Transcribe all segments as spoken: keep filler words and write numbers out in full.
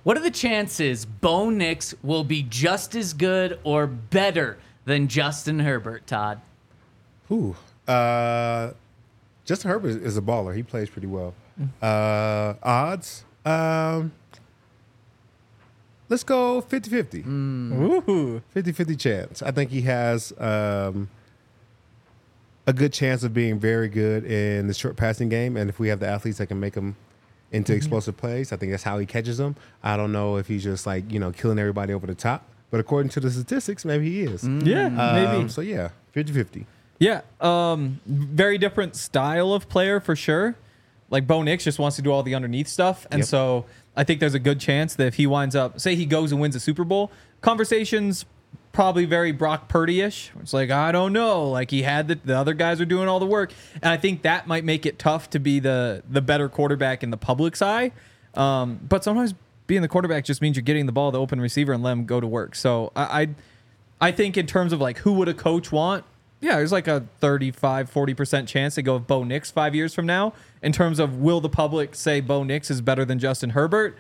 What are the chances Bo Nix will be just as good or better than Justin Herbert, Todd? Ooh, uh, Justin Herbert is a baller. He plays pretty well. Uh, odds, um, let's go fifty-fifty. Ooh. fifty-fifty chance. I think he has um, a good chance of being very good in the short passing game. And if we have the athletes that can make him into mm-hmm. explosive plays, I think that's how he catches them. I don't know if he's just like, you know, killing everybody over the top. But according to the statistics, maybe he is. Mm. Yeah, um, maybe. So, yeah, fifty-fifty. Yeah, um, very different style of player for sure. Like Bo Nix just wants to do all the underneath stuff. And yep. so I think there's a good chance that if he winds up, say he goes and wins a Super Bowl, conversations probably very Brock Purdy-ish. It's like, I don't know. Like he had the, the other guys are doing all the work. And I think that might make it tough to be the, the better quarterback in the public's eye. Um, but sometimes being the quarterback just means you're getting the ball to the open receiver and let him go to work. So I, I, I think in terms of like who would a coach want, yeah, there's like a thirty-five, forty percent chance to go with Bo Nix five years from now. In terms of will the public say Bo Nix is better than Justin Herbert?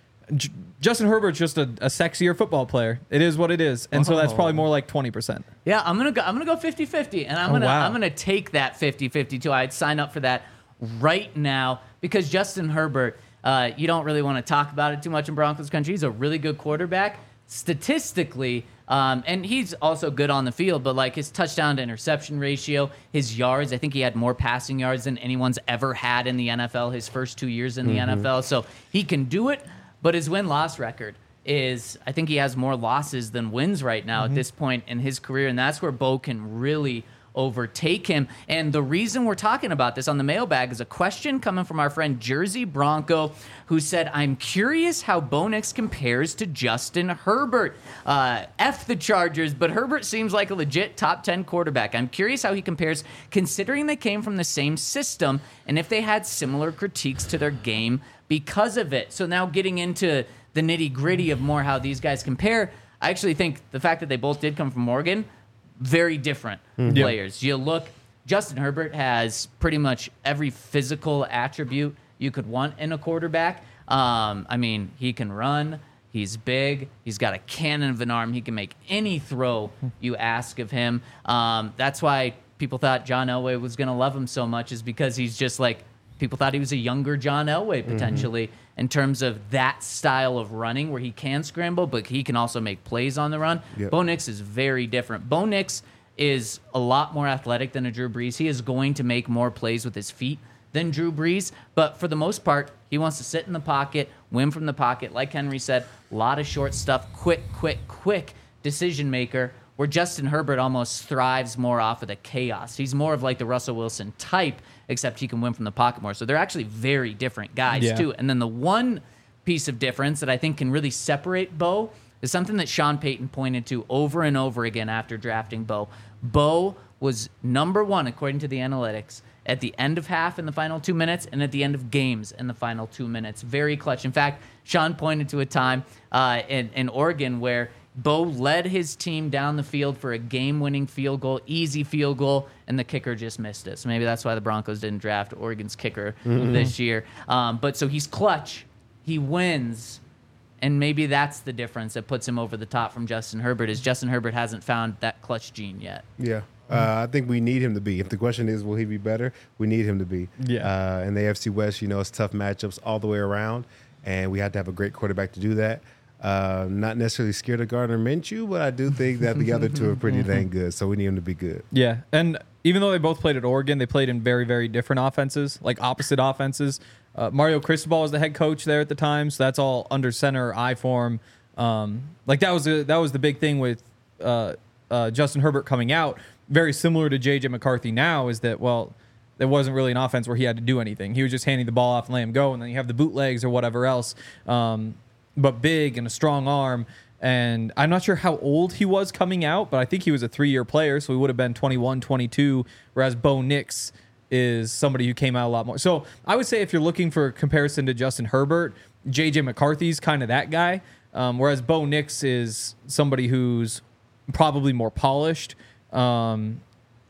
J- Justin Herbert's just a, a sexier football player. It is what it is. And oh. so that's probably more like twenty percent. Yeah, I'm going to go I'm going to go fifty-fifty and I'm oh, going to wow. I'm going to take that fifty-fifty too. I'd sign up for that right now because Justin Herbert, uh, you don't really want to talk about it too much in Broncos country. He's a really good quarterback statistically. Um, and he's also good on the field, but like his touchdown to interception ratio, his yards, I think he had more passing yards than anyone's ever had in the N F L his first two years in the mm-hmm. N F L. So he can do it, but his win-loss record is, I think he has more losses than wins right now mm-hmm. at this point in his career, and that's where Bo can really overtake him. And the reason we're talking about this on the mailbag is a question coming from our friend Jersey Bronco, who said, I'm curious how Bo Nix compares to Justin Herbert. Uh, F the Chargers, but Herbert seems like a legit top ten quarterback. I'm curious how he compares, considering they came from the same system, and if they had similar critiques to their game because of it. So now getting into the nitty-gritty of more how these guys compare, I actually think the fact that they both did come from Oregon, very different mm-hmm. players. You look, Justin Herbert has pretty much every physical attribute you could want in a quarterback. Um, I mean, he can run. He's big. He's got a cannon of an arm. He can make any throw you ask of him. Um, that's why people thought John Elway was going to love him so much, is because he's just like, people thought he was a younger John Elway potentially mm-hmm. in terms of that style of running where he can scramble, but he can also make plays on the run. Yep. Bo Nix is very different. Bo Nix is a lot more athletic than a Drew Brees. He is going to make more plays with his feet than Drew Brees, but for the most part, he wants to sit in the pocket, win from the pocket. Like Henry said, a lot of short stuff, quick, quick, quick decision maker, where Justin Herbert almost thrives more off of the chaos. He's more of like the Russell Wilson type, except he can win from the pocket more. So they're actually very different guys, yeah. too. And then the one piece of difference that I think can really separate Bo is something that Sean Payton pointed to over and over again after drafting Bo. Bo was number one, according to the analytics, at the end of half in the final two minutes and at the end of games in the final two minutes. Very clutch. In fact, Sean pointed to a time uh, in, in Oregon where Bo led his team down the field for a game-winning field goal, easy field goal, and the kicker just missed it. So maybe that's why the Broncos didn't draft Oregon's kicker mm-hmm. this year. Um, but so he's clutch. He wins. And maybe that's the difference that puts him over the top from Justin Herbert, is Justin Herbert hasn't found that clutch gene yet. Yeah. Uh, I think we need him to be. If the question is, will he be better? We need him to be. Yeah. Uh, in the A F C West, you know, it's tough matchups all the way around, and we have to have a great quarterback to do that. Uh, not necessarily scared of Gardner Minshew, but I do think that the other two are pretty dang good, so we need him to be good. Yeah, and even though they both played at Oregon, they played in very, very different offenses, like opposite offenses. Uh, Mario Cristobal was the head coach there at the time, so that's all under center, I form. Um, like that was a, that was the big thing with uh, uh, Justin Herbert coming out. Very similar to J J McCarthy now, is that, well, there wasn't really an offense where he had to do anything. He was just handing the ball off and letting him go, and then you have the bootlegs or whatever else. Um, but big and a strong arm. And I'm not sure how old he was coming out, but I think he was a three-year player, so he would have been twenty-one, twenty-two, whereas Bo Nix is somebody who came out a lot more. So I would say if you're looking for a comparison to Justin Herbert, J J McCarthy's kind of that guy, um, whereas Bo Nix is somebody who's probably more polished. Um,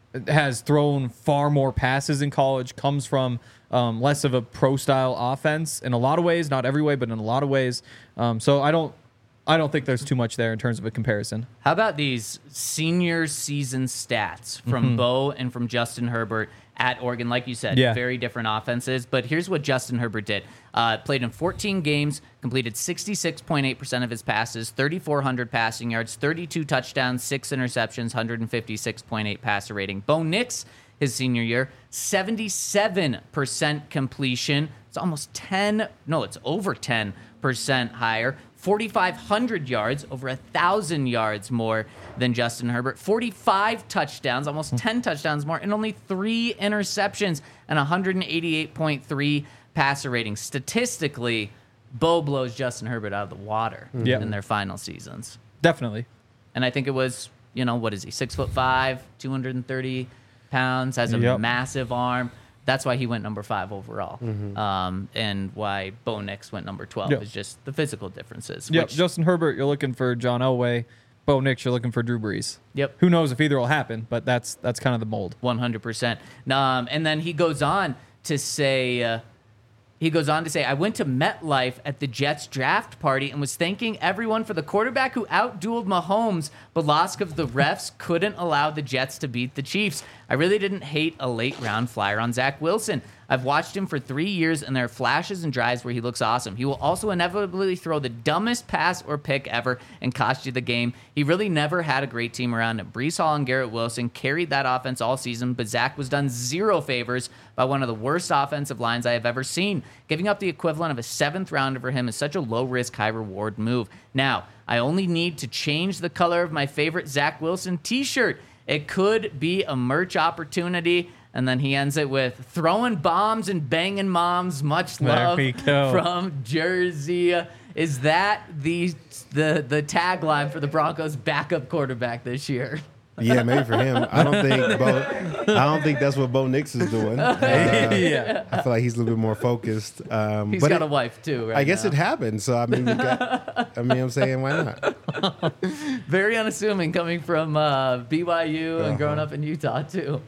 has thrown far more passes in college, comes from um, less of a pro-style offense in a lot of ways, not every way, but in a lot of ways. Um, so I don't, I don't think there's too much there in terms of a comparison. How about these senior season stats from Mm-hmm. Bo and from Justin Herbert at Oregon? Like you said, Yeah. very different offenses. But here's what Justin Herbert did. Uh, played in fourteen games, completed sixty-six point eight percent of his passes, thirty-four hundred passing yards, thirty-two touchdowns, six interceptions, one hundred fifty-six point eight passer rating. Bo Nix, his senior year, seventy-seven percent completion. It's almost ten, no, it's over ten percent higher. forty-five hundred yards, over one thousand yards more than Justin Herbert. forty-five touchdowns, almost ten touchdowns more, and only three interceptions and one eighty-eight point three passer rating. Statistically, Bo blows Justin Herbert out of the water Yep. in their final seasons. Definitely. And I think it was, you know, what is he? Six foot five, two hundred thirty pounds, has a Yep. massive arm. That's why he went number five overall. Mm-hmm. Um, and why Bo Nix went number twelve Yep. is just the physical differences. Yep. which- Justin Herbert, you're looking for John Elway. Bo Nix, you're looking for Drew Brees. Yep. Who knows if either will happen, but that's that's kind of the mold. one hundred percent. Um, and then he goes on to say, uh, he goes on to say, I went to MetLife at the Jets draft party and was thanking everyone for the quarterback who outdueled Mahomes, but lost because the refs couldn't allow the Jets to beat the Chiefs. I really didn't hate a late round flyer on Zach Wilson. I've watched him for three years, and there are flashes and drives where he looks awesome. He will also inevitably throw the dumbest pass or pick ever and cost you the game. He really never had a great team around him. Breece Hall and Garrett Wilson carried that offense all season, but Zach was done zero favors by one of the worst offensive lines I have ever seen. Giving up the equivalent of a seventh rounder for him is such a low-risk, high-reward move. Now, I only need to change the color of my favorite Zach Wilson t-shirt. It could be a merch opportunity. And then he ends it with throwing bombs and banging moms. Much There love we go. from Jersey. Is that the the the tagline for the Broncos' backup quarterback this year? Yeah, maybe for him. I don't think Bo, I don't think that's what Bo Nix is doing. Uh, Yeah. I feel like he's a little bit more focused. Um, He's but got it- a wife too, right? I guess now. it happened. So I mean, you got, I mean, I'm saying why not? Very unassuming coming from uh, B Y U and Uh-huh. growing up in Utah too.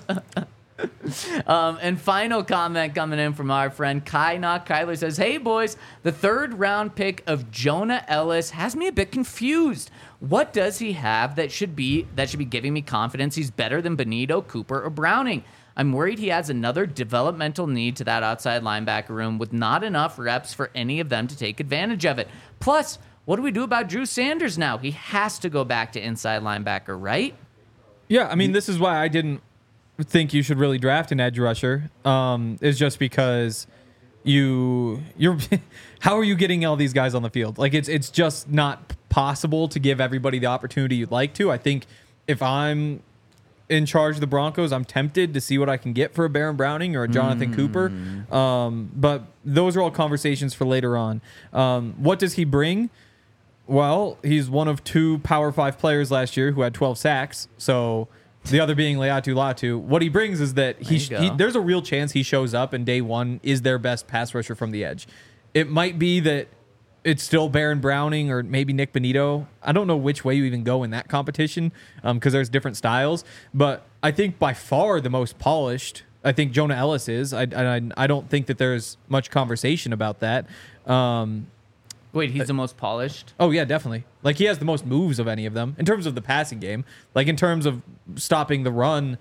Um, and final comment coming in from our friend Kai Knock. Kyler says, hey, boys, the third round pick of Jonah Ellis has me a bit confused. What does he have that should be that should be giving me confidence he's better than Benito, Cooper, or Browning? I'm worried he adds another developmental need to that outside linebacker room with not enough reps for any of them to take advantage of it. Plus, what do we do about Drew Sanders now? He has to go back to inside linebacker, right? Yeah, I mean, this is why I didn't think you should really draft an edge rusher. Um, is just because you you're how are you getting all these guys on the field? Like it's it's just not possible to give everybody the opportunity you'd like to. I think if I'm in charge of the Broncos, I'm tempted to see what I can get for a Baron Browning or a Jonathan Mm. Cooper. Um, but those are all conversations for later on. Um, what does he bring? Well, he's one of two Power Five players last year who had twelve sacks. So the other being Leatu Latu. What he brings is that he, There you he go. there's a real chance he shows up and day one is their best pass rusher from the edge. It might be that it's still Baron Browning or maybe Nick Benito. I don't know which way you even go in that competition because there's different styles. But I think by far the most polished, I think Jonah Ellis is. I, I, I don't think that there's much conversation about that. Um, Wait, he's the most polished? Oh yeah, definitely. Like he has the most moves of any of them in terms of the passing game. Like in terms of stopping the run,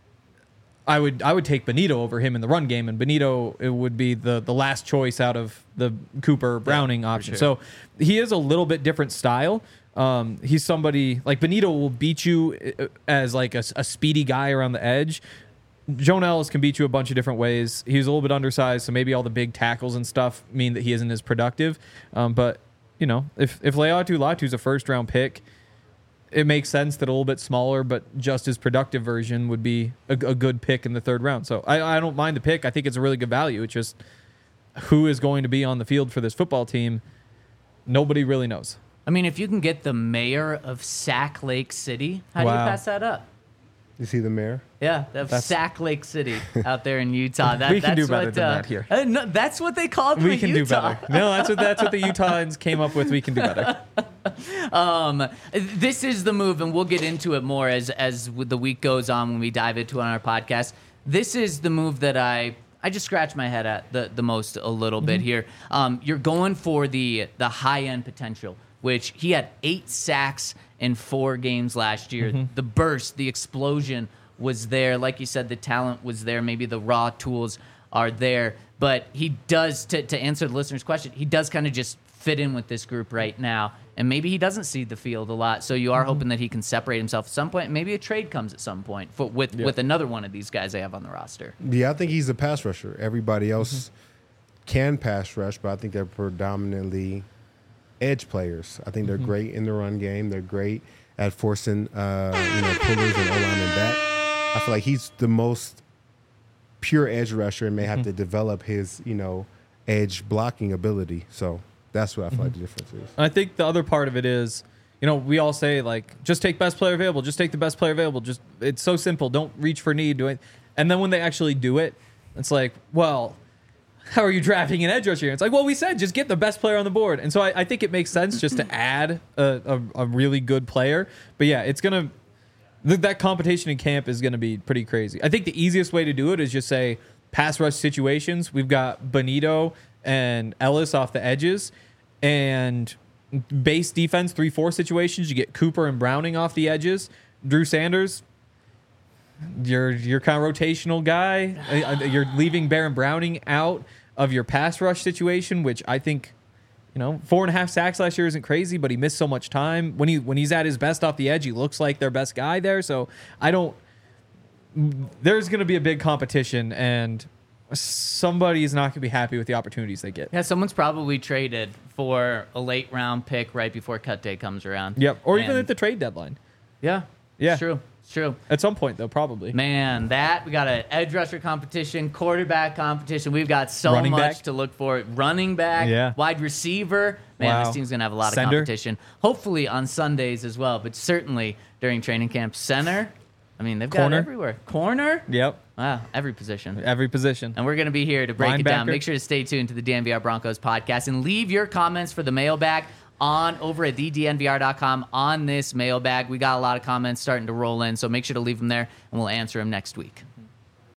I would I would take Benito over him in the run game, and Benito it would be the the last choice out of the Cooper Browning option. sure. So he is a little bit different style. Um, he's somebody like Benito will beat you uh, as like a, a speedy guy around the edge. Jonah Ellis can beat you a bunch of different ways. He's a little bit undersized, so maybe all the big tackles and stuff mean that he isn't as productive. Um, but, you know, if, if Leatu Latu's a first-round pick, it makes sense that a little bit smaller but just as productive version would be a, a good pick in the third round. So I, I don't mind the pick. I think it's a really good value. It's just who is going to be on the field for this football team, nobody really knows. I mean, if you can get the mayor of Sack Lake City, how do Wow. you pass that up? You see the mayor? Yeah, of That's- Sac Lake City out there in Utah. That, We can that's do better what, than uh, that here. uh, no, that's what they called We me, can Utah. do better. No, that's what that's what the Utahns came up with. We can do better. Um, this is the move, and we'll get into it more as as the week goes on when we dive into it on our podcast. This is the move that I I just scratch my head at the the most a little bit here. Um, you're going for the the high end potential, which he had eight sacks in four games last year. The burst, the explosion was there. Like you said, the talent was there. Maybe the raw tools are there, but he does to to answer the listener's question. He does kind of just fit in with this group right now. And maybe he doesn't see the field a lot, so you are mm-hmm. hoping that he can separate himself at some point. Maybe a trade comes at some point for, with yeah. with another one of these guys they have on the roster. Yeah, I think he's a pass rusher. Everybody else mm-hmm. can pass rush, but I think they're predominantly edge players. I think they're mm-hmm. great in the run game. They're great at forcing uh, you know pullers and O-linemen back. I feel like he's the most pure edge rusher and may have mm-hmm. to develop his you know edge blocking ability. So. That's what I feel mm-hmm. like the difference is. I think the other part of it is, you know, we all say like, just take best player available, just take the best player available. Just it's so simple. Don't reach for need. Do it. And then when they actually do it, it's like, well, how are you drafting an edge rusher? It's like, well, we said just get the best player on the board. And so I, I think it makes sense just to add a, a, a really good player. But yeah, it's gonna th- that competition in camp is gonna be pretty crazy. I think the easiest way to do it is just say pass rush situations. We've got Bonito and Ellis off the edges. And base defense, three four situations, you get Cooper and Browning off the edges. Drew Sanders, you're, you're kind of rotational guy. You're leaving Baron Browning out of your pass rush situation, which I think, you know, four and a half sacks last year isn't crazy, but he missed so much time. When he when he's at his best off the edge, he looks like their best guy there. So I don't... There's going to be a big competition, and somebody is not going to be happy with the opportunities they get. Yeah, someone's probably traded for a late round pick right before cut day comes around. Yep, or and even at the trade deadline. Yeah, yeah, it's true. It's true. At some point, though, probably. Man, that we got an edge rusher competition, quarterback competition. We've got so Running much back. to look for. Running back, Yeah. wide receiver. Man, Wow. this team's gonna have a lot Center. of competition. Hopefully on Sundays as well, but certainly during training camp. Center. I mean, they've got Corner. it everywhere. Corner. Yep, Wow, every position. every position. And we're going to be here to break it down. Linebacker. Make sure to stay tuned to the D N V R Broncos podcast and leave your comments for the mailbag on over at the D N V R dot com on this mailbag. We got a lot of comments starting to roll in, so make sure to leave them there, and we'll answer them next week.